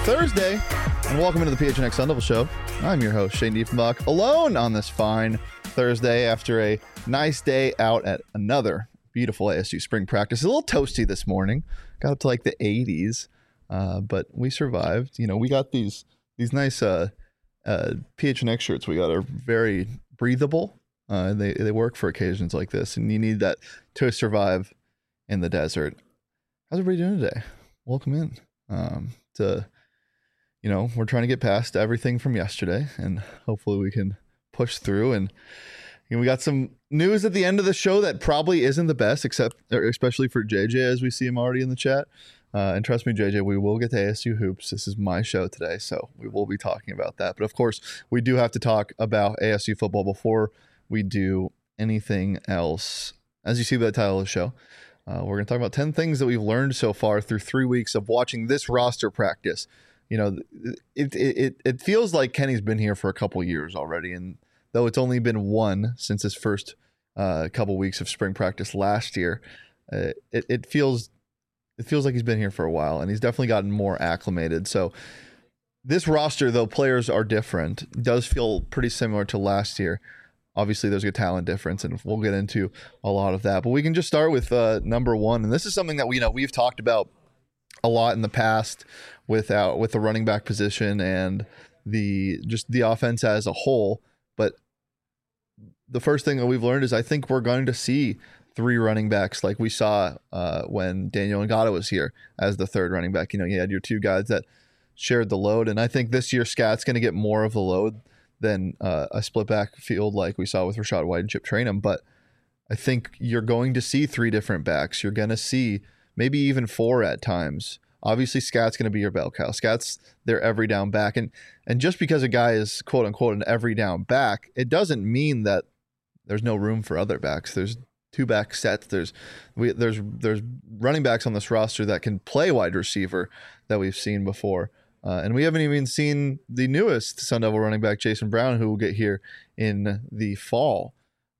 Thursday, and welcome into the PHNX Sun Devil Show. I'm your host, Shane Diefenbach, alone on this fine Thursday after a nice day out at another beautiful ASU spring practice. A little toasty this morning, got up to like the 80s, but we survived. You know, we got these nice PHNX shirts we got are very breathable. They work for occasions like this, and you need that to survive in the desert. How's everybody doing today? Welcome in. We're trying to get past everything from yesterday, and hopefully we can push through. And we got some news at the end of the show that probably isn't the best, especially for JJ, as we see him already in the chat. And trust me, JJ, we will get to ASU hoops. This is my show today, so we will be talking about that. But of course, we do have to talk about ASU football before we do anything else. As you see by the title of the show, we're going to talk about 10 things that we've learned so far through 3 weeks of watching this roster practice. You know, it feels like Kenny's been here for a couple years already, and though it's only been one since his first couple weeks of spring practice last year, it feels like he's been here for a while, and he's definitely gotten more acclimated. So this roster, though players are different, does feel pretty similar to last year. Obviously, there's a talent difference, and we'll get into a lot of that. But we can just start with number one, and this is something that we've talked about a lot in the past with the running back position and the offense as a whole. But the first thing that we've learned is I think we're going to see three running backs like we saw when Daniel Ngata was here as the third running back. You know, you had your two guys that shared the load, and I think this year Scott's going to get more of the load than a split back field like we saw with Rashad White and Chip Trayanum. But I think you're going to see three different backs. You're going to see maybe even four at times. Obviously, Scott's going to be your bell cow. Scott's their every down back. And just because a guy is, quote unquote, an every down back, it doesn't mean that there's no room for other backs. There's two back sets. There's running backs on this roster that can play wide receiver that we've seen before. And we haven't even seen the newest Sun Devil running back, Jason Brown, who will get here in the fall.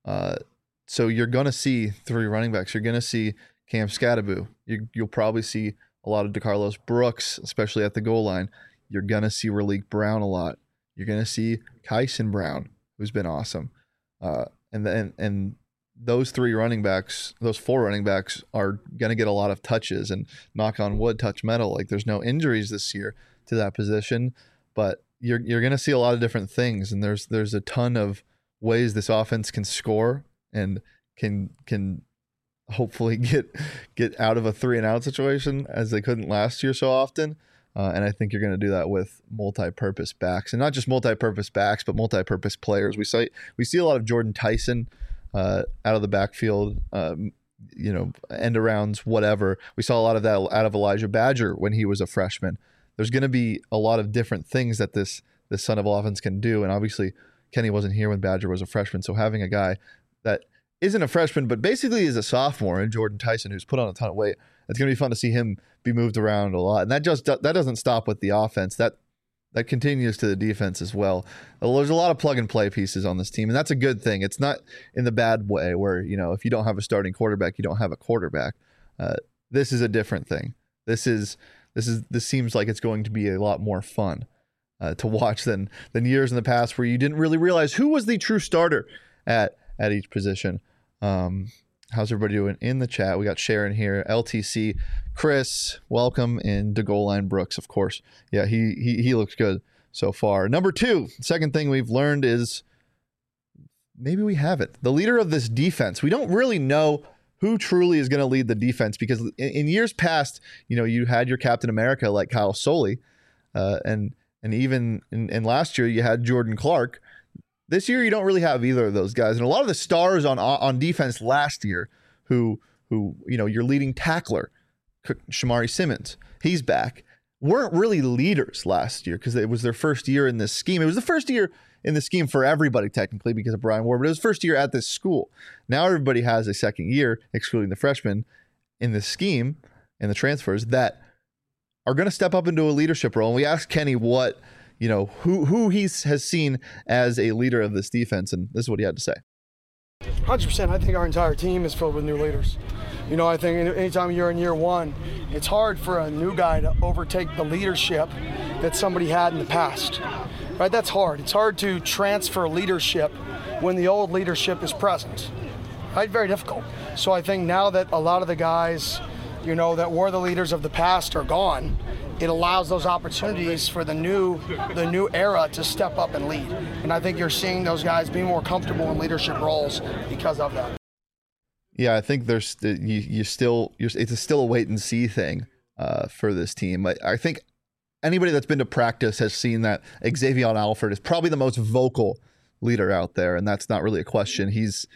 So you're going to see three running backs. You're going to see Cam Skattebo. You'll probably see a lot of DeCarlos Brooks, especially at the goal line. You're going to see Raleek Brown a lot. You're going to see Kyson Brown, who's been awesome. And those four running backs are going to get a lot of touches, and knock on wood, touch metal. Like, there's no injuries this year to that position, but you're going to see a lot of different things. And there's a ton of ways this offense can score and can hopefully get out of a 3-and-out situation as they couldn't last year so often. And I think you're going to do that with multi-purpose backs, and not just multi-purpose backs, but multi-purpose players. We see a lot of Jordan Tyson out of the backfield, end arounds, whatever. We saw a lot of that out of Elijah Badger when he was a freshman. There's going to be a lot of different things that this Sun Devil offense can do. And obviously Kenny wasn't here when Badger was a freshman. So having a guy that isn't a freshman, but basically is a sophomore in Jordan Tyson, who's put on a ton of weight, it's going to be fun to see him be moved around a lot. And that doesn't stop with the offense. That continues to the defense as well. There's a lot of plug and play pieces on this team, and that's a good thing. It's not in the bad way where, if you don't have a starting quarterback, you don't have a quarterback. This is a different thing. This seems like it's going to be a lot more fun to watch than years in the past where you didn't really realize who was the true starter at each position. How's everybody doing in the chat? We got Sharon here, LTC, Chris, welcome, and DeGoal Line Brooks, of course. Yeah, he looks good so far. Number two, second thing we've learned is maybe we haven't. The leader of this defense, we don't really know who truly is going to lead the defense, because in years past, you had your Captain America like Kyle Soley, and even in last year you had Jordan Clark. This year you don't really have either of those guys, and a lot of the stars on defense last year, who your leading tackler, Shamari Simmons, he's back, weren't really leaders last year because it was their first year in this scheme. It was the first year in the scheme for everybody technically because of Brian Ward, but it was first year at this school. Now everybody has a second year, excluding the freshmen, in this scheme and the transfers that are going to step up into a leadership role. And we asked Kenny what, who he has seen as a leader of this defense, and this is what he had to say. 100%. I think our entire team is filled with new leaders. I think anytime you're in year one, it's hard for a new guy to overtake the leadership that somebody had in the past, right? That's hard. It's hard to transfer leadership when the old leadership is present, right? Very difficult. So I think now that a lot of the guys, that were the leaders of the past are gone, it allows those opportunities for the new era to step up and lead. And I think you're seeing those guys be more comfortable in leadership roles because of that. Yeah, I think it's still a wait and see thing for this team. I think anybody that's been to practice has seen that Xavier Alford is probably the most vocal leader out there, and that's not really a question. He's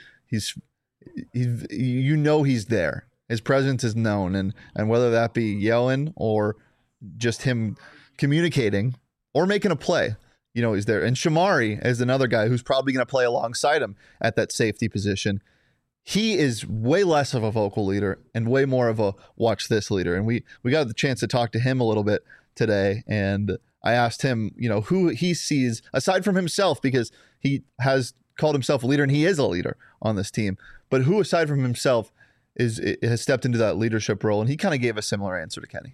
he's there. His presence is known, and whether that be yelling or just him communicating or making a play, he's there. And Shamari is another guy who's probably going to play alongside him at that safety position. He is way less of a vocal leader and way more of a watch this leader. And we got the chance to talk to him a little bit today. And I asked him, who he sees aside from himself, because he has called himself a leader and he is a leader on this team, but who aside from himself has stepped into that leadership role. And he kind of gave a similar answer to Kenny.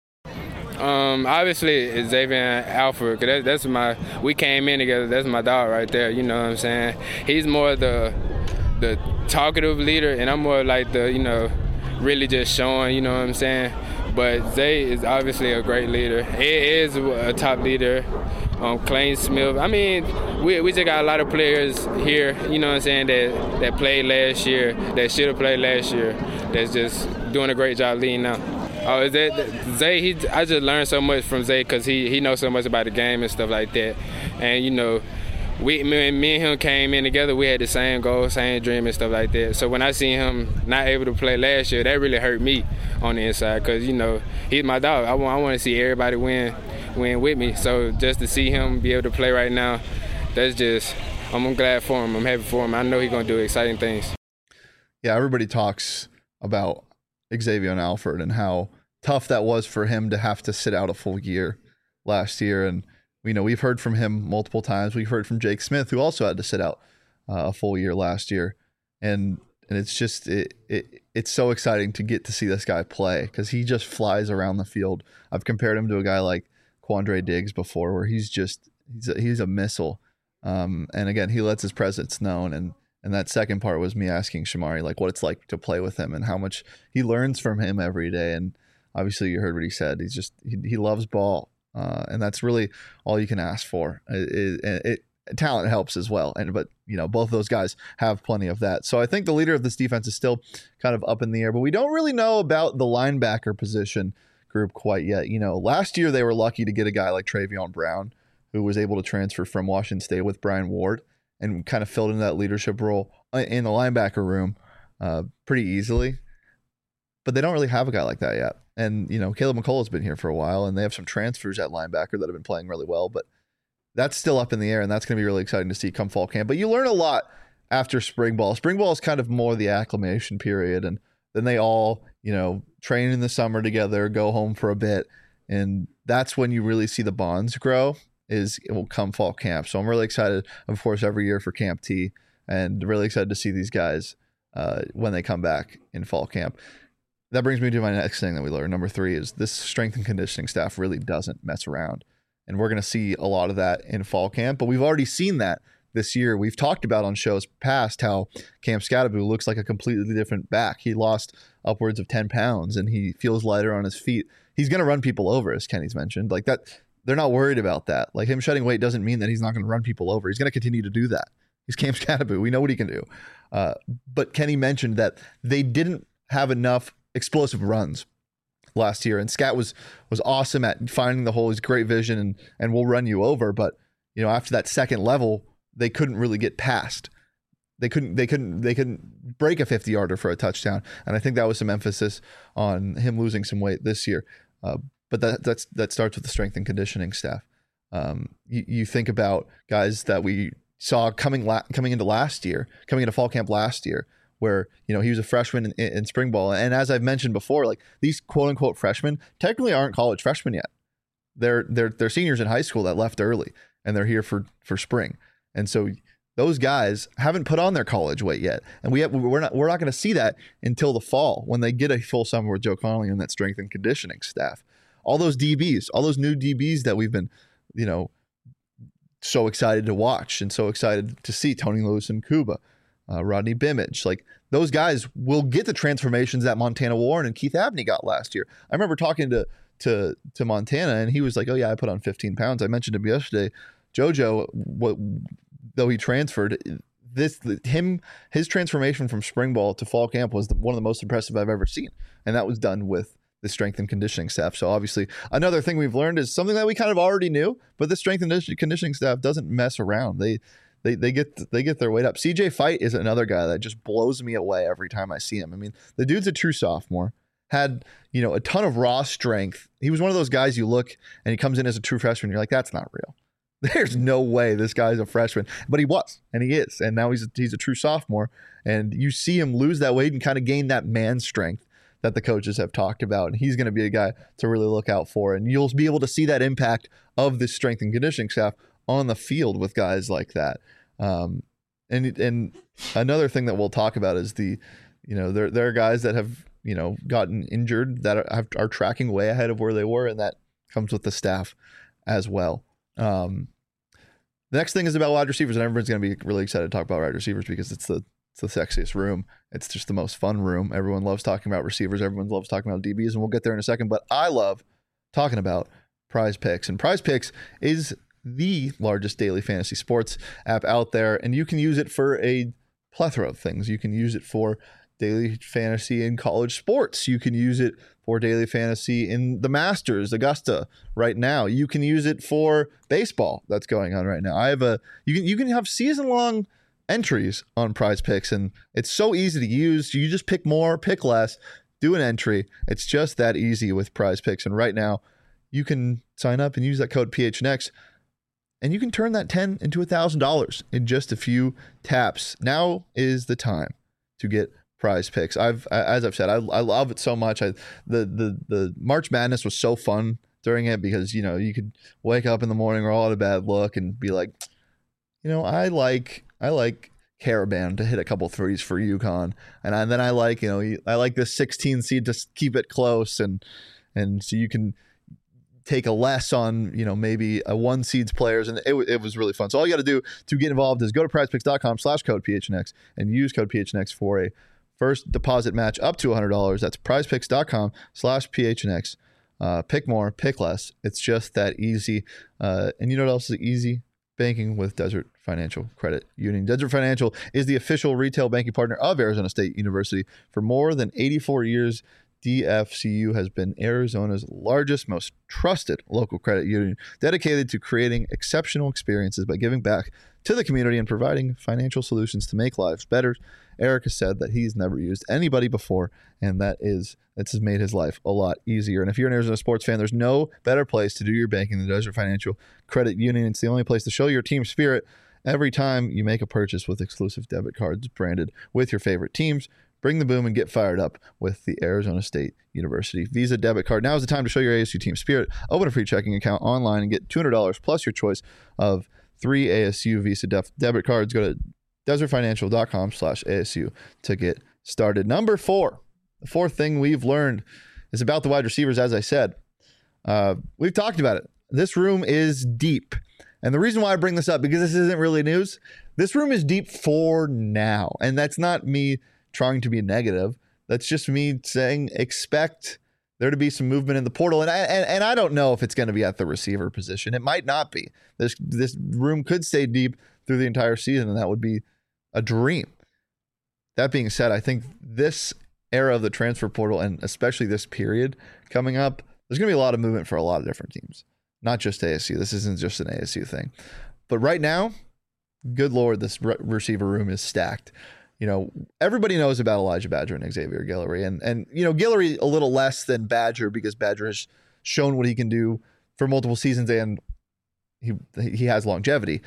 Obviously Xavier Alford, cause we came in together. That's my dog right there. You know what I'm saying? He's more the talkative leader, and I'm more like the, really just showing, you know what I'm saying? But Zay is obviously a great leader. He is a top leader. Clayton Smith. I mean, we just got a lot of players here, you know what I'm saying, that played last year, that should have played last year, that's just doing a great job leading now. Oh, is that Zay? I just learned so much from Zay because he knows so much about the game and stuff like that. And me and him came in together. We had the same goal, same dream, and stuff like that. So when I seen him not able to play last year, that really hurt me on the inside because he's my dog. I want to see everybody win with me. So just to see him be able to play right now, I'm glad for him. I'm happy for him. I know he's gonna do exciting things. Yeah, everybody talks about Xavier Alford and how tough that was for him to have to sit out a full year last year. And we've heard from him multiple times. We've heard from Jake Smith, who also had to sit out a full year last year. And it's just it's so exciting to get to see this guy play because he just flies around the field. I've compared him to a guy like Quandre Diggs before, where he's a missile. And again, he lets his presence known. And that second part was me asking Shamari like what it's like to play with him and how much he learns from him every day. And obviously you heard what he said. He loves ball. And that's really all you can ask for. Talent helps as well. But both of those guys have plenty of that. So I think the leader of this defense is still kind of up in the air, but we don't really know about the linebacker position group quite yet. Last year they were lucky to get a guy like Travion Brown, who was able to transfer from Washington State with Brian Ward and kind of filled into that leadership role in the linebacker room pretty easily. But they don't really have a guy like that yet. And, Caleb McCullough's been here for a while, and they have some transfers at linebacker that have been playing really well. But that's still up in the air, and that's going to be really exciting to see come fall camp. But you learn a lot after spring ball. Spring ball is kind of more the acclimation period, and then they all, train in the summer together, go home for a bit, and that's when you really see the bonds grow. It will come fall camp. So I'm really excited, of course, every year for Camp T, and really excited to see these guys when they come back in fall camp. That brings me to my next thing that we learned. Number 3 is this strength and conditioning staff really doesn't mess around. And we're going to see a lot of that in fall camp, but we've already seen that this year. We've talked about on shows past how Cam Scatterby looks like a completely different back. He lost upwards of 10 pounds and he feels lighter on his feet. He's going to run people over, as Kenny's mentioned. Like that, they're not worried about that. Like him shedding weight doesn't mean that he's not going to run people over. He's going to continue to do that. He's Cam Scatterby. We know what he can do. But Kenny mentioned that they didn't have enough explosive runs last year, and Scat was awesome at finding the hole. He's great vision and will run you over. But after that second level, they couldn't really get past. They couldn't break a 50-yarder for a touchdown. And I think that was some emphasis on him losing some weight this year. But that starts with the strength and conditioning staff. You think about guys that we saw coming into fall camp last year, where he was a freshman in spring ball. And as I've mentioned before, like these quote unquote freshmen technically aren't college freshmen yet. They're seniors in high school that left early and they're here for spring. And so those guys haven't put on their college weight yet. And we're not going to see that until the fall when they get a full summer with Joe Connolly and that strength and conditioning staff. all those DBs, all those new DBs that we've been, so excited to watch and so excited to see. Tony Lewis and Kuba, Rodney Bimage, like those guys will get the transformations that Montana Warren and Keith Abney got last year. I remember talking to Montana, and he was like, "Oh yeah, I put on 15 pounds." I mentioned him yesterday. JoJo, though he transferred, his transformation from spring ball to fall camp was one of the most impressive I've ever seen, and that was done with the strength and conditioning staff. So obviously, another thing we've learned is something that we kind of already knew, but the strength and conditioning staff doesn't mess around. They get their weight up. CJ Fight is another guy that just blows me away every time I see him. I mean, the dude's a true sophomore, had a ton of raw strength. He was one of those guys you look and he comes in as a true freshman. You're like, that's not real. There's no way this guy's a freshman, but he was, and he is, and now he's a true sophomore. And you see him lose that weight and kind of gain that man strength that the coaches have talked about, and he's going to be a guy to really look out for. And you'll be able to see that impact of this strength and conditioning staff on the field with guys like that. And another thing that we'll talk about is there are guys that have gotten injured that are tracking way ahead of where they were, and that comes with the staff as well. The next thing is about wide receivers, and everyone's going to be really excited to talk about wide receivers because it's the sexiest room. It's just the most fun room. Everyone loves talking about receivers. Everyone loves talking about DBs, and we'll get there in a second. But I love talking about Prize Picks, and Prize Picks is the largest daily fantasy sports app out there, and you can use it for a plethora of things. You can use it for daily fantasy in college sports. You can use it for daily fantasy in the Masters, Augusta right now. You can use it for baseball that's going on right now. You can have season-long entries on Prize Picks, and it's so easy to use. You just pick more, pick less, do an entry. It's just that easy with Prize Picks. And right now, you can sign up and use that code PHNX, and you can turn that $10 into $1,000 in just a few taps. Now is the time to get Prize Picks. As I've said, I love it so much. The March Madness was so fun during it because you could wake up in the morning or all at a bad look and be like, I like Caravan to hit a couple threes for UConn, and then I like this 16 seed to keep it close, and so you can take a less on maybe a 1 seed's players, and it was really fun. So all you got to do to get involved is go to prizepicks.com/code PHNX and use code PHNX for a first deposit match up to $100. That's prizepicks.com/PHNX. Pick more, pick less. It's just that easy. And you know what else is easy? Banking with Desert Financial Credit Union. Desert Financial is the official retail banking partner of Arizona State University. For more than 84 years, DFCU has been Arizona's largest, most trusted local credit union, dedicated to creating exceptional experiences by giving back to the community and providing financial solutions to make lives better. Eric has said that he's never used anybody before, and that's made his life a lot easier. And if you're an Arizona sports fan, there's no better place to do your banking than Desert Financial Credit Union. It's the only place to show your team spirit every time you make a purchase with exclusive debit cards branded with your favorite teams. Bring the boom and get fired up with the Arizona State University Visa debit card. Now is the time to show your ASU team spirit. Open a free checking account online and get $200 plus your choice of 3 ASU Visa debit cards. Go to desertfinancial.com/ASU to get started. Number 4, the fourth thing we've learned is about the wide receivers. As I said, we've talked about it. This room is deep. And the reason why I bring this up, because this isn't really news, this room is deep for now. And that's not me trying to be negative. That's just me saying expect there to be some movement in the portal. And I don't know if it's going to be at the receiver position. It might not be. This room could stay deep through the entire season, and that would be a dream. That being said, I think this era of the transfer portal, and especially this period coming up, there's going to be a lot of movement for a lot of different teams, not just ASU. This isn't just an ASU thing. But right now, good Lord, this receiver room is stacked. Everybody knows about Elijah Badger and Xavier Guillory, and Guillory a little less than Badger because Badger has shown what he can do for multiple seasons, and he has longevity.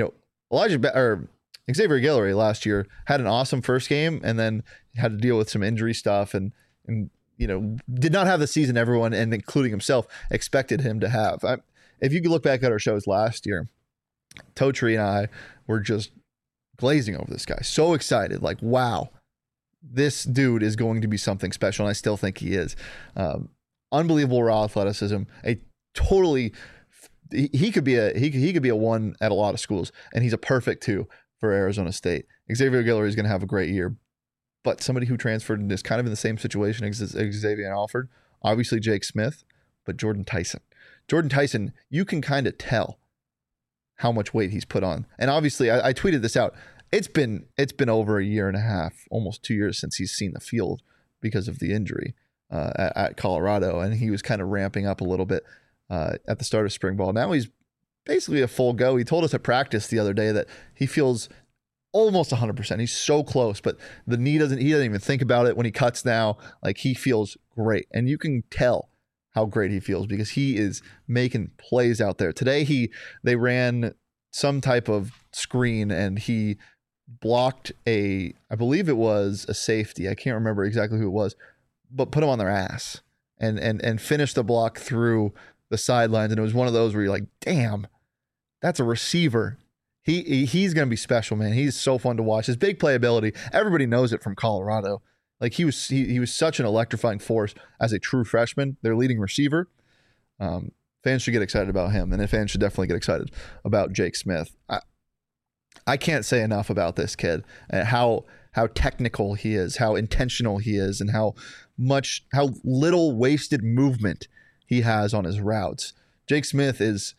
Xavier Guillory last year had an awesome first game and then had to deal with some injury stuff and did not have the season everyone, and including himself, expected him to have. If you could look back at our shows last year, Totri and I were just glazing over this guy. So excited, like, wow, this dude is going to be something special, and I still think he is. unbelievable raw athleticism, a totally he could be a one at a lot of schools, and he's a perfect 2 for Arizona State. Xavier Guillory is going to have a great year, but somebody who transferred and is kind of in the same situation as Xavier Alford, obviously Jake Smith, but Jordan Tyson. Jordan Tyson, you can kind of tell how much weight he's put on. And obviously, I tweeted this out. It's been over a year and a half, almost 2 years since he's seen the field because of the injury at Colorado, and he was kind of ramping up a little bit at the start of spring ball. Now he's basically a full go. He told us at practice the other day that he feels almost 100%. He's so close, but the knee he doesn't even think about it when he cuts now. Like, he feels great, and you can tell how great he feels because he is making plays out there. Today they ran some type of screen and he blocked I believe it was a safety. I can't remember exactly who it was, but put him on their ass and finished the block through the sidelines. And it was one of those where you're like, damn, that's a receiver. He's going to be special, man. He's so fun to watch. His big playability, everybody knows it from Colorado. Like, he was such an electrifying force as a true freshman, their leading receiver. Fans should get excited about him, and fans should definitely get excited about Jake Smith. I can't say enough about this kid, and how technical he is, how intentional he is, and how little wasted movement he has on his routes. Jake Smith is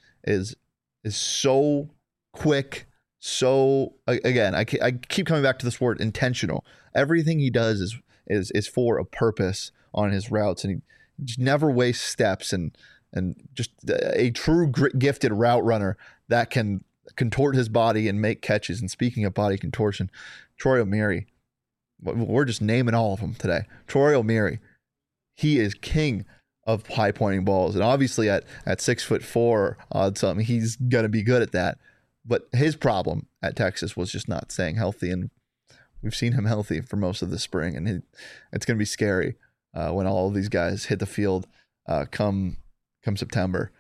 so quick. So again, I keep coming back to this word intentional. Everything he does is for a purpose on his routes, and he just never wastes steps, and just a true gifted route runner that can contort his body and make catches. And speaking of body contortion, Troy O'Meary, we're just naming all of them today. Troy O'Meary, he is king of high pointing balls, and obviously at 6'4" odd something, he's gonna be good at that. But his problem at Texas was just not staying healthy, and we've seen him healthy for most of the spring, and it's going to be scary when all of these guys hit the field come September.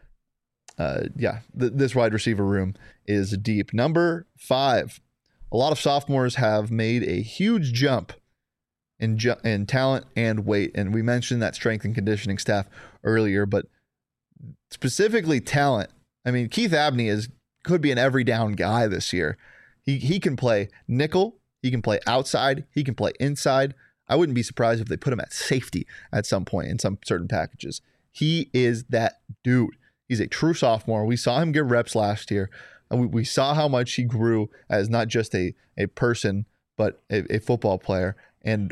This wide receiver room is deep. Number 5, a lot of sophomores have made a huge jump in talent and weight, and we mentioned that strength and conditioning staff earlier, but specifically talent. I mean, Keith Abney could be an every down guy this year. He can play nickel, he can play outside, he can play inside. I wouldn't be surprised if they put him at safety at some point in some certain packages. He is that dude. He's a true sophomore. We saw him get reps last year, and we saw how much he grew as not just a person, but a football player. And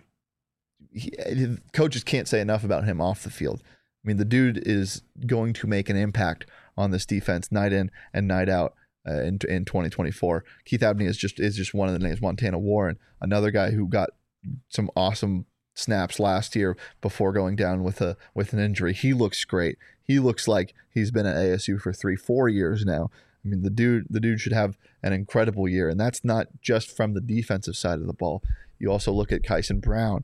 coaches can't say enough about him off the field. I mean, the dude is going to make an impact on this defense night in and night out in 2024. Keith Abney is just one of the names. Montana Warren, another guy who got some awesome snaps last year before going down with an injury. He looks great. He looks like he's been at ASU for 3-4 years now. I mean, the dude should have an incredible year, and that's not just from the defensive side of the ball. You also look at Kyson Brown,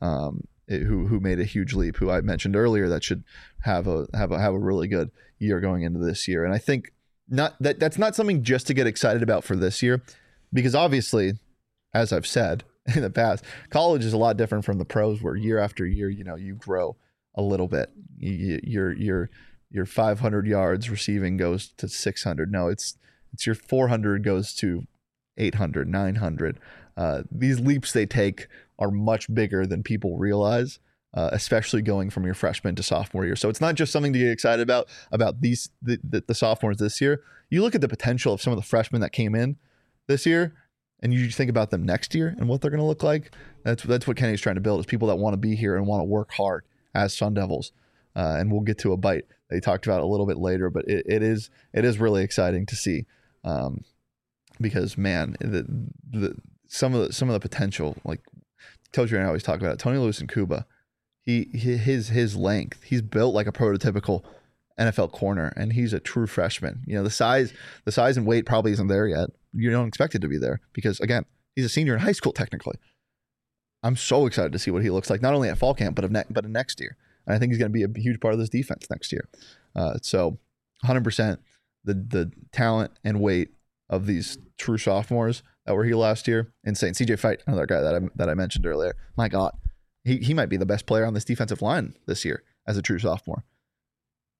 who made a huge leap, who I mentioned earlier, that should have a really good year going into this year. And I think that's not something just to get excited about for this year, because obviously, as I've said in the past, college is a lot different from the pros, where year after year, you grow a little bit. Your 500 yards receiving goes to 600. No, it's your 400 goes to 800, 900. These leaps they take are much bigger than people realize, especially going from your freshman to sophomore year. So it's not just something to get excited about the sophomores this year. You look at the potential of some of the freshmen that came in this year, and you think about them next year and what they're going to look like. That's what Kenny's trying to build, is people that want to be here and want to work hard as Sun Devils. And we'll get to a bite they talked about a little bit later, but it is really exciting to see, because man, some of the potential, like Coach and I always talk about it. Tony Lewis and Kuba, his length, he's built like a prototypical NFL corner, and he's a true freshman. The size and weight probably isn't there yet. You don't expect it to be there because, again, he's a senior in high school technically. I'm so excited to see what he looks like, not only at fall camp but in next year. And I think he's going to be a huge part of this defense next year. So 100% the talent and weight of these true sophomores that were here last year, insane. CJ Fite, another guy that I mentioned earlier. My God, he might be the best player on this defensive line this year as a true sophomore.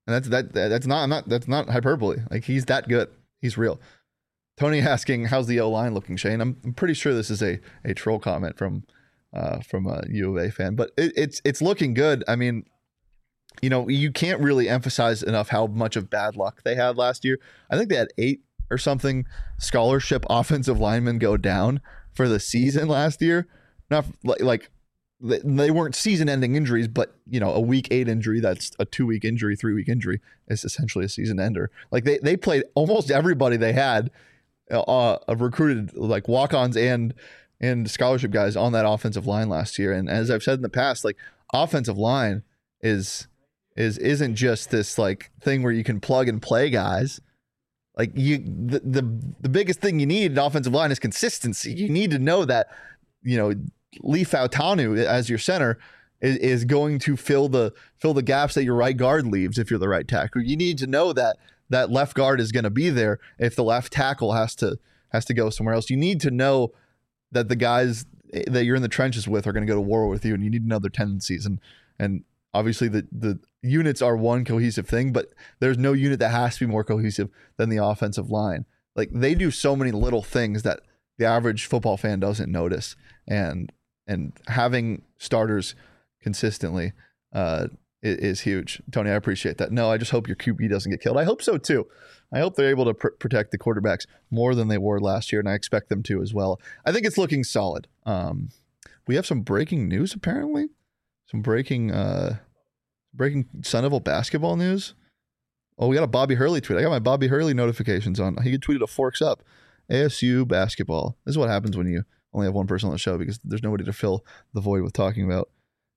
And that's not hyperbole. Like, he's that good. He's real. Tony asking, how's the O-line looking, Shane? I'm pretty sure this is a troll comment from a U of A fan, but it's looking good. I mean, you can't really emphasize enough how much of bad luck they had last year. I think they had 8 or something scholarship offensive linemen go down for the season last year. Not like they weren't season-ending injuries, but a week 8 injury, that's a 2-week injury, 3-week injury is essentially a season ender. Like they played almost everybody they had recruited, like walk-ons and scholarship guys on that offensive line last year. And as I've said in the past, like, offensive line isn't just this like thing where you can plug and play guys. Like, the biggest thing you need in offensive line is consistency. You need to know that Lee Fautanu as your center is going to fill the gaps that your right guard leaves if you're the right tackle. You need to know that left guard is going to be there if the left tackle has to go somewhere else. You need to know that the guys that you're in the trenches with are going to go to war with you, and you need to know their tendencies. And obviously the units are one cohesive thing, but there's no unit that has to be more cohesive than the offensive line. Like, they do so many little things that the average football fan doesn't notice, and having starters consistently is huge. Tony, I appreciate that. No, I just hope your QB doesn't get killed. I hope so too. I hope they're able to protect the quarterbacks more than they were last year, and I expect them to as well. I think it's looking solid. We have some breaking news, apparently. Some breaking Sunnyvale basketball news. Oh, we got a Bobby Hurley tweet. I got my Bobby Hurley notifications on. He tweeted a Forks Up. ASU basketball. This is what happens when you only have one person on the show, because there's nobody to fill the void with talking about.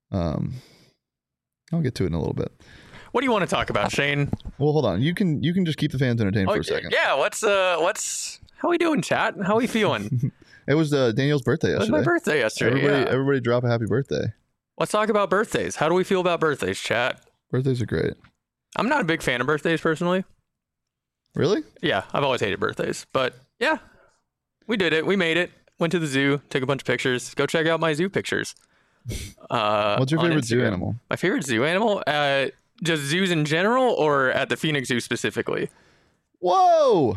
I'll get to it in a little bit. What do you want to talk about, Shane? Well, hold on. You can just keep the fans entertained for a second. Yeah. How we doing, chat? How we feeling? It was Daniel's birthday yesterday. It was my birthday yesterday. Everybody drop a happy birthday. Let's talk about birthdays. How do we feel about birthdays, chat? Birthdays are great. I'm not a big fan of birthdays personally. Really? Yeah, I've always hated birthdays. But yeah, we did it. We made it. Went to the zoo, took a bunch of pictures. Go check out my zoo pictures. What's your favorite zoo animal? My favorite zoo animal? Just zoos in general, or at the Phoenix Zoo specifically? Whoa!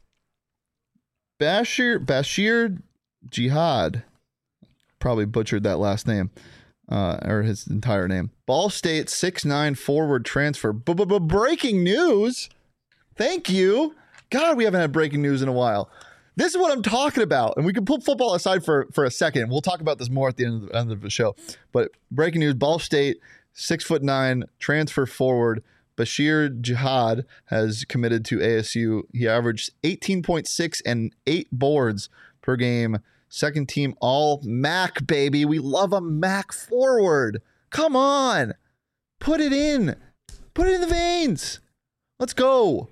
Bashir Jihad. Probably butchered that last name. Or his entire name. Ball State 6'9" forward transfer. Breaking news. Thank you. God, we haven't had breaking news in a while. This is what I'm talking about. And we can put football aside for a second. We'll talk about this more at the end of the show. But breaking news, Ball State 6'9" transfer forward Bashir Jihad has committed to ASU. He averaged 18.6 and 8 boards per game. Second team all MAC, baby. We love a MAC forward. Come on. Put it in. Put it in the veins. Let's go.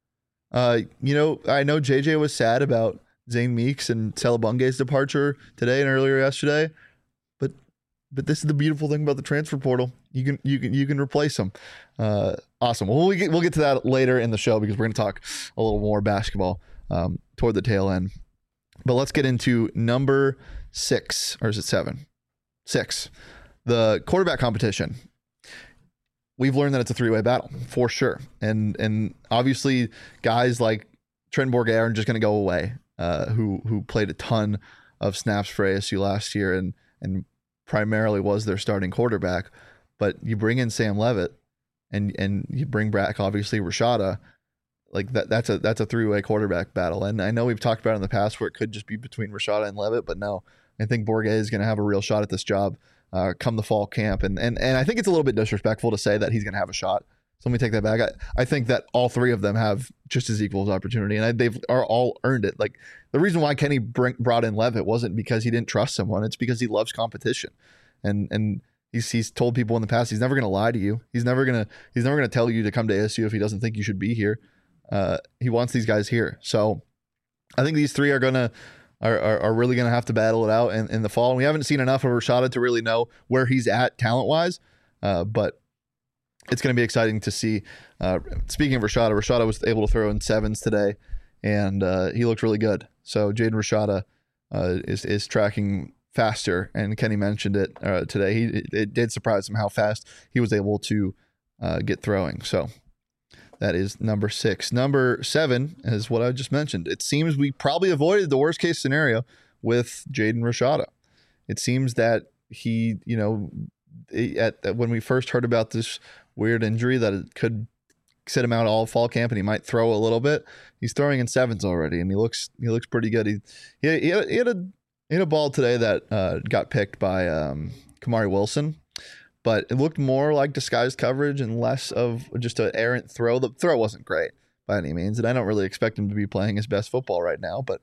I know JJ was sad about Zane Meeks and Salabunge's departure today and earlier yesterday, but this is the beautiful thing about the transfer portal. You can replace them. Awesome. Well, we'll get to that later in the show, because we're going to talk a little more basketball toward the tail end. But let's get into number 6, or is it 7? 6. The quarterback competition. We've learned that it's a 3-way battle for sure. And obviously guys like Trent Bourguet aren't just going to go away, who played a ton of snaps for ASU last year and primarily was their starting quarterback. But you bring in Sam Levitt and you bring back obviously Rashada. Like that's a 3-way quarterback battle. And I know we've talked about it in the past where it could just be between Rashada and Levitt, but no, I think Bourguet is going to have a real shot at this job come the fall camp. And I think it's a little bit disrespectful to say that he's going to have a shot. So let me take that back. I think that all three of them have just as equal as opportunity, and they've all earned it. Like, the reason why Kenny brought in Levitt wasn't because he didn't trust someone. It's because he loves competition. And he's told people in the past he's never going to lie to you. He's never going to tell you to come to ASU if he doesn't think you should be here. He wants these guys here. So I think these three are really going to have to battle it out in the fall. And we haven't seen enough of Rashada to really know where he's at talent-wise, but it's going to be exciting to see. Speaking of Rashada was able to throw in 7s today, and he looked really good. So Jaden Rashada is tracking faster, and Kenny mentioned it today. It did surprise him how fast he was able to get throwing. So That is number 6. Number 7 is what I just mentioned. It seems we probably avoided the worst case scenario with Jaden Rashada. It seems that he, when we first heard about this weird injury that it could sit him out all fall camp and he might throw a little bit, he's throwing in 7s already, and he looks pretty good. He had a ball today that got picked by Kamari Wilson, but it looked more like disguised coverage and less of just an errant throw. The throw wasn't great by any means, and I don't really expect him to be playing his best football right now. But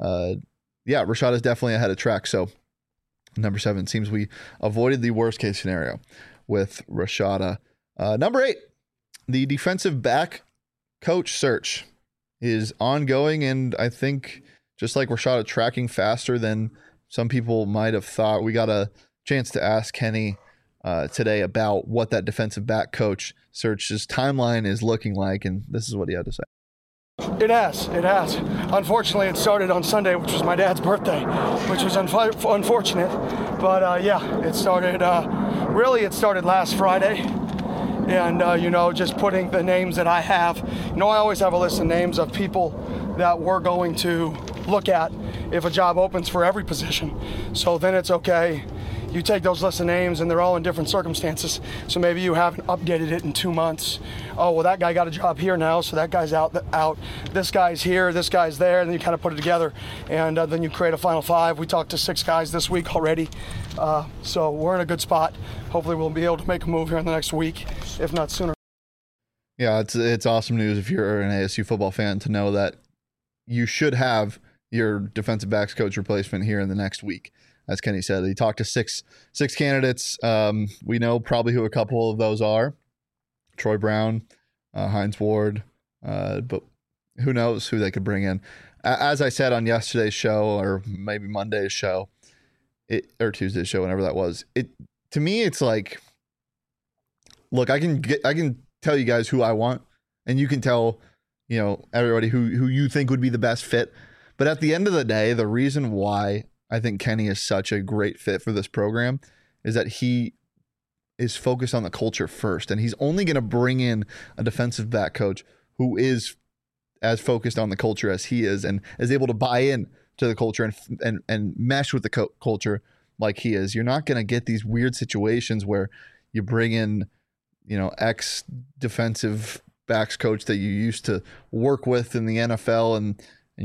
Rashada is definitely ahead of track. So number 7, seems we avoided the worst case scenario with Rashada. Number 8, the defensive back coach search is ongoing, and I think just like Rashada tracking faster than some people might have thought. We got a chance to ask Kenny today about what that defensive back coach search's timeline is looking like, and this is what he had to say. It has. Unfortunately, it started on Sunday, which was my dad's birthday, which was unfortunate. But it started, it started last Friday. And, just putting the names that I have. I always have a list of names of people that we're going to look at if a job opens for every position. So then it's okay. You take those lists of names and they're all in different circumstances. So maybe you haven't updated it in 2 months. Oh, well, that guy got a job here now, so that guy's out. This guy's here, this guy's there, and then you kind of put it together. And then you create a final 5. We talked to 6 guys this week already. So we're in a good spot. Hopefully we'll be able to make a move here in the next week, if not sooner. Yeah, it's awesome news if you're an ASU football fan to know that you should have your defensive backs coach replacement here in the next week. As Kenny said, he talked to six candidates. We know probably who a couple of those are. Troy Brown, Hines Ward, but who knows who they could bring in. As I said on yesterday's show, or maybe Monday's show, or Tuesday's show, whenever that was, to me, it's like, look, I can tell you guys who I want, and you can tell, everybody who you think would be the best fit. But at the end of the day, the reason why I think Kenny is such a great fit for this program is that he is focused on the culture first, and he's only going to bring in a defensive back coach who is as focused on the culture as he is and is able to buy in to the culture and mesh with the culture like he is. You're not going to get these weird situations where you bring in, ex defensive backs coach that you used to work with in the NFL, and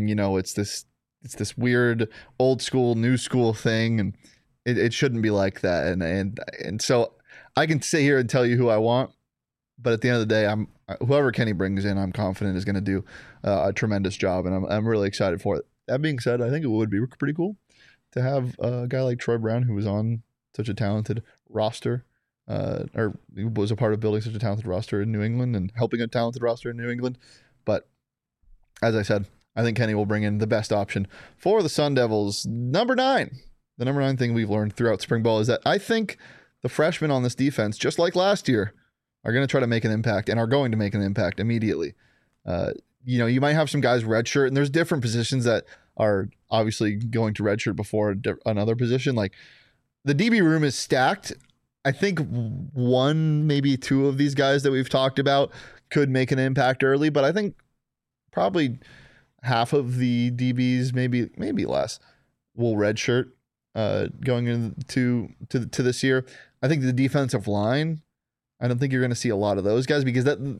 it's this weird old school, new school thing, and it shouldn't be like that. And so I can sit here and tell you who I want, but at the end of the day, whoever Kenny brings in, I'm confident is going to do a tremendous job, and I'm really excited for it. That being said, I think it would be pretty cool to have a guy like Troy Brown, who was on such a talented roster, or was a part of building such a talented roster in New England and helping a talented roster in New England. But as I said, I think Kenny will bring in the best option for the Sun Devils. Number 9. The number 9 thing we've learned throughout spring ball is that I think the freshmen on this defense, just like last year, are going to try to make an impact and are going to make an impact immediately. You might have some guys redshirt, and there's different positions that are obviously going to redshirt before another position. Like, the DB room is stacked. I think 1, maybe 2 of these guys that we've talked about could make an impact early, but I think probably half of the DBs, maybe less, will redshirt going into this year. I think the defensive line, I don't think you're going to see a lot of those guys, because again,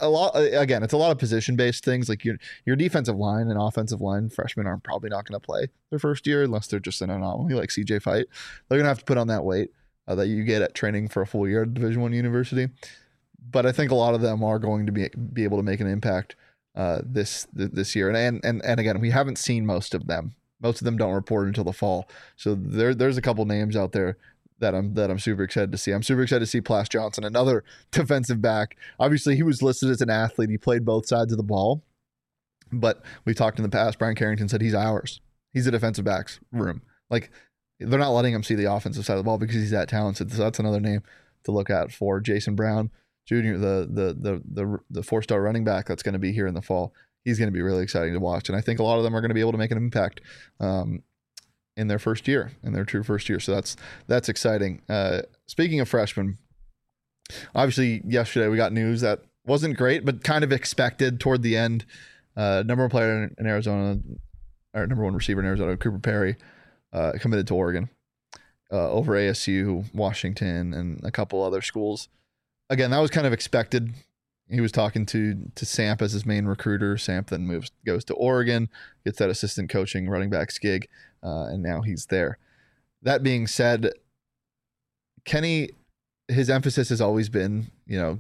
it's a lot of position based things. Like your defensive line and offensive line freshmen are probably not going to play their first year unless they're just an anomaly like CJ Fight. They're going to have to put on that weight that you get at training for a full year at Division I university. But I think a lot of them are going to be able to make an impact this year, and again, we haven't seen most of them. Most of them don't report until the fall. So there's a couple names out there that I'm super excited to see. I'm super excited to see Plas Johnson, another defensive back. Obviously, he was listed as an athlete. He played both sides of the ball, but we talked in the past. Brian Carrington said he's ours. He's a defensive backs room. Like, they're not letting him see the offensive side of the ball because he's that talented. So that's another name to look at for Jason Brown Jr., the 4-star running back that's going to be here in the fall. He's going to be really exciting to watch, and I think a lot of them are going to be able to make an impact in their first year, in their true first year. So that's exciting. Speaking of freshmen, obviously yesterday we got news that wasn't great, but kind of expected toward the end. Number one player in Arizona, or number one receiver in Arizona, Cooper Perry, committed to Oregon over ASU, Washington, and a couple other schools. Again, that was kind of expected. He was talking to Samp as his main recruiter. Samp then goes to Oregon, gets that assistant coaching running backs gig, and now he's there. That being said, Kenny, his emphasis has always been,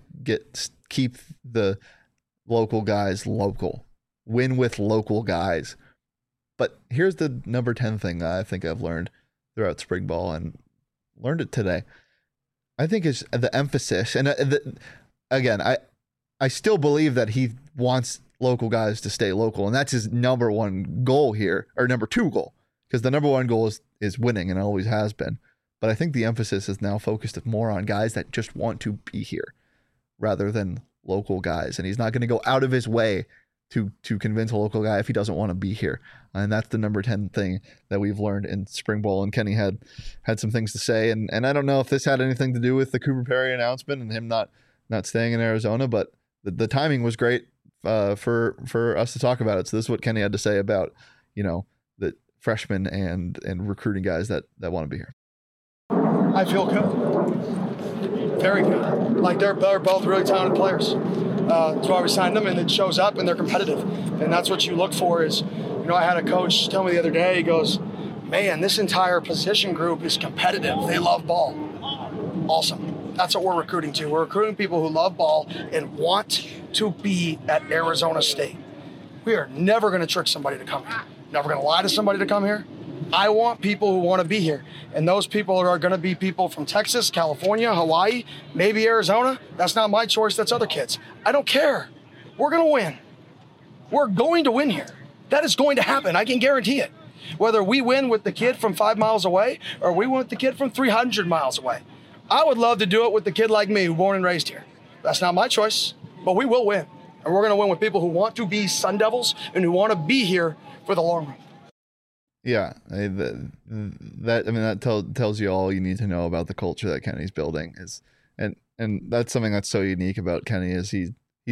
keep the local guys local, win with local guys. But here's the number 10 thing that I think I've learned throughout spring ball, and learned it today. I think is the emphasis, and again, I still believe that he wants local guys to stay local, and that's his number one goal here, or number two goal, because the number one goal is winning, and always has been. But I think the emphasis is now focused more on guys that just want to be here rather than local guys. And he's not going to go out of his way to convince a local guy if he doesn't want to be here. And that's the number 10 thing that we've learned in spring ball. And Kenny had some things to say. And I don't know if this had anything to do with the Cooper Perry announcement and him not staying in Arizona, but the timing was great for us to talk about it. So this is what Kenny had to say about, the freshmen and recruiting guys that want to be here. I feel good. Very good. Like they're both really talented players. That's why we signed them, and it shows up, and they're competitive. And that's what you look for is, I had a coach tell me the other day, he goes, man, this entire position group is competitive. They love ball. Awesome. That's what we're recruiting to. We're recruiting people who love ball and want to be at Arizona State. We are never going to trick somebody to come here. Never going to lie to somebody to come here. I want people who want to be here. And those people are going to be people from Texas, California, Hawaii, maybe Arizona. That's not my choice. That's other kids. I don't care. We're going to win. We're going to win here. That is going to happen. I can guarantee it. Whether we win with the kid from 5 miles away or we win with the kid from 300 miles away. I would love to do it with the kid like me who born and raised here. That's not my choice, but we will win. And we're going to win with people who want to be Sun Devils and who want to be here for the long run. Yeah, that tells you all you need to know about the culture that Kenny's building is, and that's something that's so unique about Kenny is he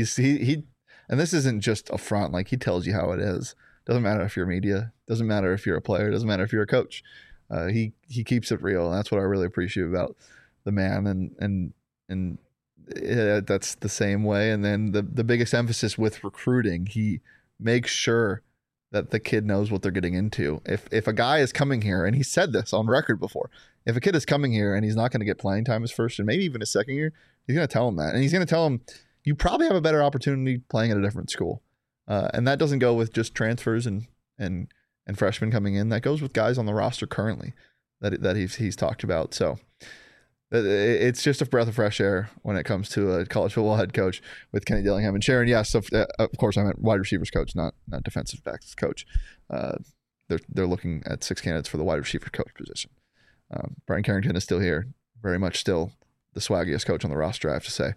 and this isn't just a front, like he tells you how it is. Doesn't matter if you're media, doesn't matter if you're a player, doesn't matter if you're a coach. He keeps it real, and that's what I really appreciate about the man, and that's the same way. And then the biggest emphasis with recruiting, he makes sure that the kid knows what they're getting into. If a guy is coming here, and he said this on record before, if a kid is coming here and he's not going to get playing time his first and maybe even his second year, he's going to tell him that. And he's going to tell him, you probably have a better opportunity playing at a different school. And that doesn't go with just transfers and freshmen coming in. That goes with guys on the roster currently that he's talked about. So it's just a breath of fresh air when it comes to a college football head coach with Kenny Dillingham. And Sharon, yes, of course I meant wide receivers coach, not defensive backs coach. They're looking at 6 candidates for the wide receiver coach position. Brian Carrington is still here, very much still the swaggiest coach on the roster, I have to say.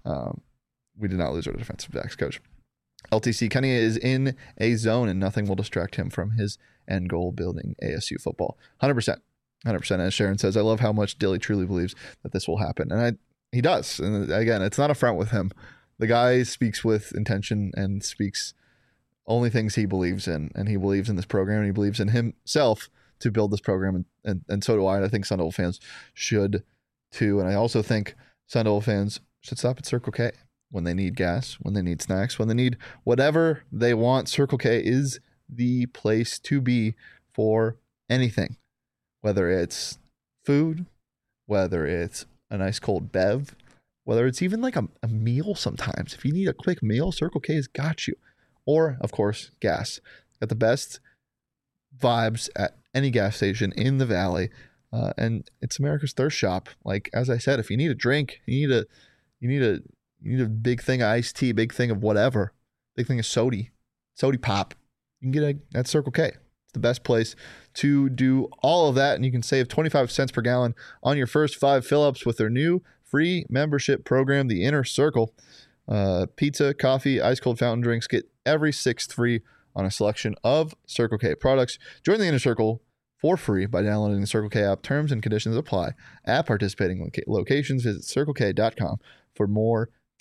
We did not lose our defensive backs coach. LTC, Kenny is in a zone, and nothing will distract him from his end goal, building ASU football. 100%. As Sharon says, I love how much Dilly truly believes that this will happen. And he does. And again, it's not a front with him. The guy speaks with intention and speaks only things he believes in. And he believes in this program, and he believes in himself to build this program. And so do I. And I think Sun Devil fans should too. And I also think Sun Devil fans should stop at Circle K when they need gas, when they need snacks, when they need whatever they want. Circle K is the place to be for anything. Whether it's food, whether it's a nice cold bev, whether it's even like a meal sometimes. If you need a quick meal, Circle K has got you. Or, of course, gas. Got the best vibes at any gas station in the Valley. And it's America's thirst shop. Like, as I said, if you need a drink, you need a big thing of iced tea, big thing of whatever, big thing of sody pop, you can get at Circle K. The best place to do all of that, and you can save 25 cents per gallon on your first 5 fill-ups with their new free membership program, the Inner Circle. Pizza, coffee, ice cold fountain drinks, get every 6th free on a selection of Circle K products. Join the Inner Circle for free by downloading the Circle K app. Terms and conditions apply at participating locations. Visit CircleK.com for more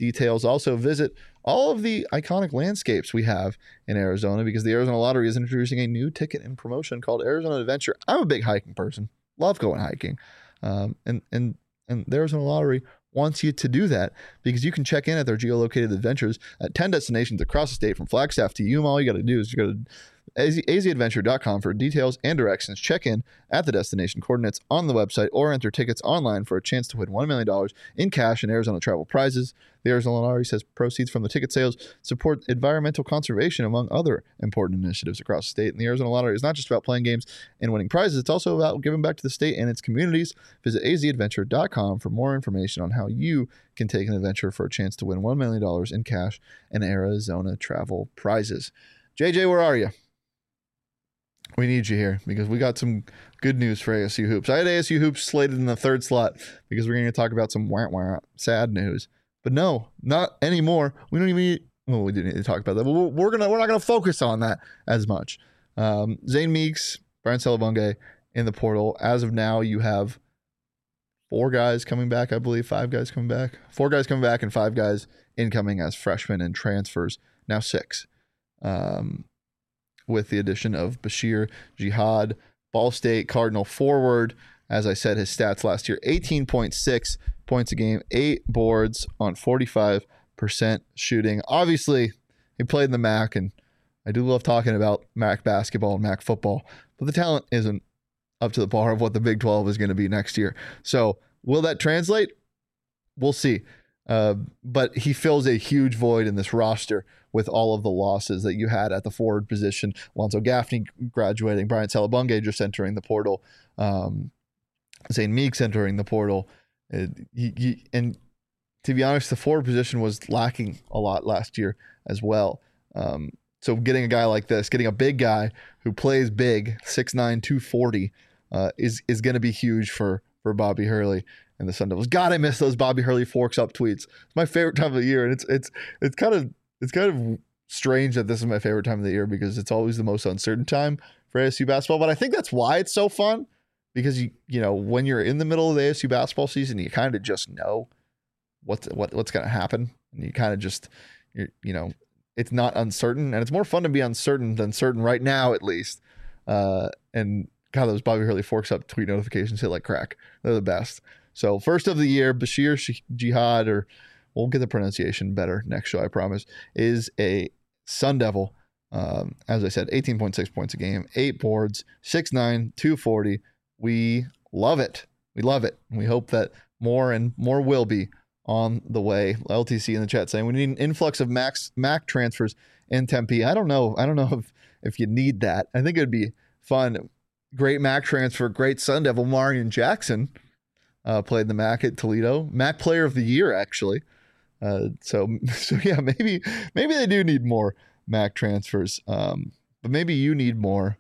details. Also, visit all of the iconic landscapes we have in Arizona, because the Arizona Lottery is introducing a new ticket and promotion called Arizona Adventure. I'm a big hiking person, love going hiking, and the Arizona Lottery wants you to do that, because you can check in at their geolocated adventures at 10 destinations across the state from Flagstaff to Yuma. All you got to do is go to azadventure.com for details and directions. Check in at the destination coordinates on the website, or enter tickets online for a chance to win $1 million in cash and Arizona travel prizes. The Arizona Lottery says proceeds from the ticket sales support environmental conservation, among other important initiatives across the state. And the Arizona Lottery is not just about playing games and winning prizes. It's also about giving back to the state and its communities. Visit azadventure.com for more information on how you can take an adventure for a chance to win $1 million in cash and Arizona travel prizes. JJ, where are you? We need you here, because we got some good news for ASU Hoops. I had ASU Hoops slated in the third slot because we're going to talk about some sad news. But no, not anymore. We don't even need, well, we do need to talk about that, but we're not going to focus on that as much. Zane Meeks, Brian Salabunga in the portal. As of now, you have 4 guys coming back, I believe. 5 guys coming back. 4 guys coming back and 5 guys incoming as freshmen and transfers. Now 6. With the addition of Bashir Jihad, Ball State Cardinal forward. As I said, his stats last year, 18.6 points a game, 8 boards on 45% shooting. Obviously, he played in the MAC, and I do love talking about MAC basketball and MAC football, but the talent isn't up to the par of what the Big 12 is going to be next year. So will that translate? We'll see. But he fills a huge void in this roster with all of the losses that you had at the forward position. Alonzo Gaffney graduating, Brian Salabunga just entering the portal, Zane Meeks entering the portal. And to be honest, the forward position was lacking a lot last year as well. So getting a guy like this, getting a big guy who plays big, 6'9", 240, is going to be huge for Bobby Hurley and the Sun Devils. God, I miss those Bobby Hurley forks up tweets. It's my favorite time of the year, and it's kind of strange that this is my favorite time of the year, because it's always the most uncertain time for ASU basketball. But I think that's why it's so fun, because you know when you're in the middle of the ASU basketball season, you kind of just know what's going to happen, and you kind of just it's not uncertain, and it's more fun to be uncertain than certain right now, at least. And God, those Bobby Hurley forks up tweet notifications hit like crack. They're the best. So first of the year, Bashir Jihad, or we'll get the pronunciation better next show, I promise, is a Sun Devil. As I said, 18.6 points a game, 8 boards, 6'9", 240. We love it. We love it. And we hope that more and more will be on the way. LTC in the chat saying we need an influx of MAC transfers in Tempe. I don't know if you need that. I think it would be fun. Great MAC transfer, great Sun Devil, Marion Jackson. Played the MAC at Toledo. MAC Player of the Year, actually. So yeah, maybe they do need more MAC transfers. But maybe you need more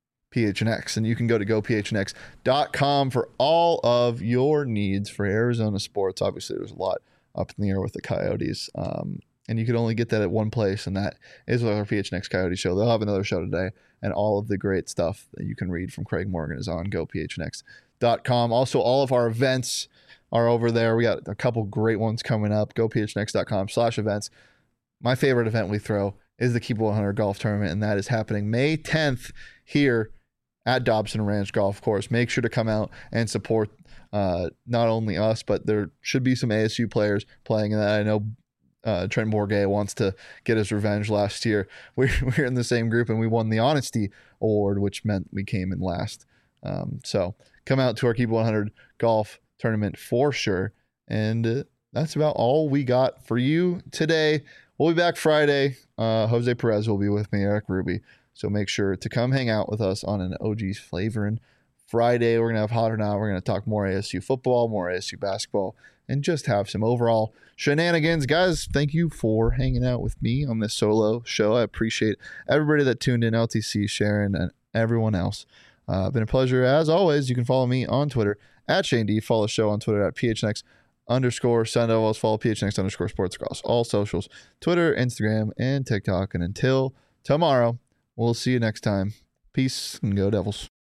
PHNX, and you can go to gophnx.com for all of your needs for Arizona sports. Obviously, there's a lot up in the air with the Coyotes, and you can only get that at one place, and that is with our PHNX Coyote show. They'll have another show today, and all of the great stuff that you can read from Craig Morgan is on gophnx.com. Also, all of our events are over there. We got a couple great ones coming up. gophnx.com/events. My favorite event we throw is the Keep 100 Golf Tournament, and that is happening May 10th here at Dobson Ranch Golf Course. Make sure to come out and support not only us, but there should be some ASU players playing in that. I know Trent Bourget wants to get his revenge last year. We're in the same group, and we won the Honesty Award, which meant we came in last. So come out to our Keep 100 Golf Tournament for sure. And that's about all we got for you today. We'll be back Friday. Jose Perez will be with me, Eric Ruby. So make sure to come hang out with us on an OG's Flavorin' Friday. We're going to have Hot or Not. We're going to talk more ASU football, more ASU basketball, and just have some overall shenanigans. Guys, thank you for hanging out with me on this solo show. I appreciate everybody that tuned in, LTC, Sharon, and everyone else. Been a pleasure as always. You can follow me on Twitter at Shane D. Follow the show on Twitter at PHNX_Sun Devils. Follow PHNX_sports across all socials, Twitter, Instagram, and TikTok. And until tomorrow, we'll see you next time. Peace and go Devils.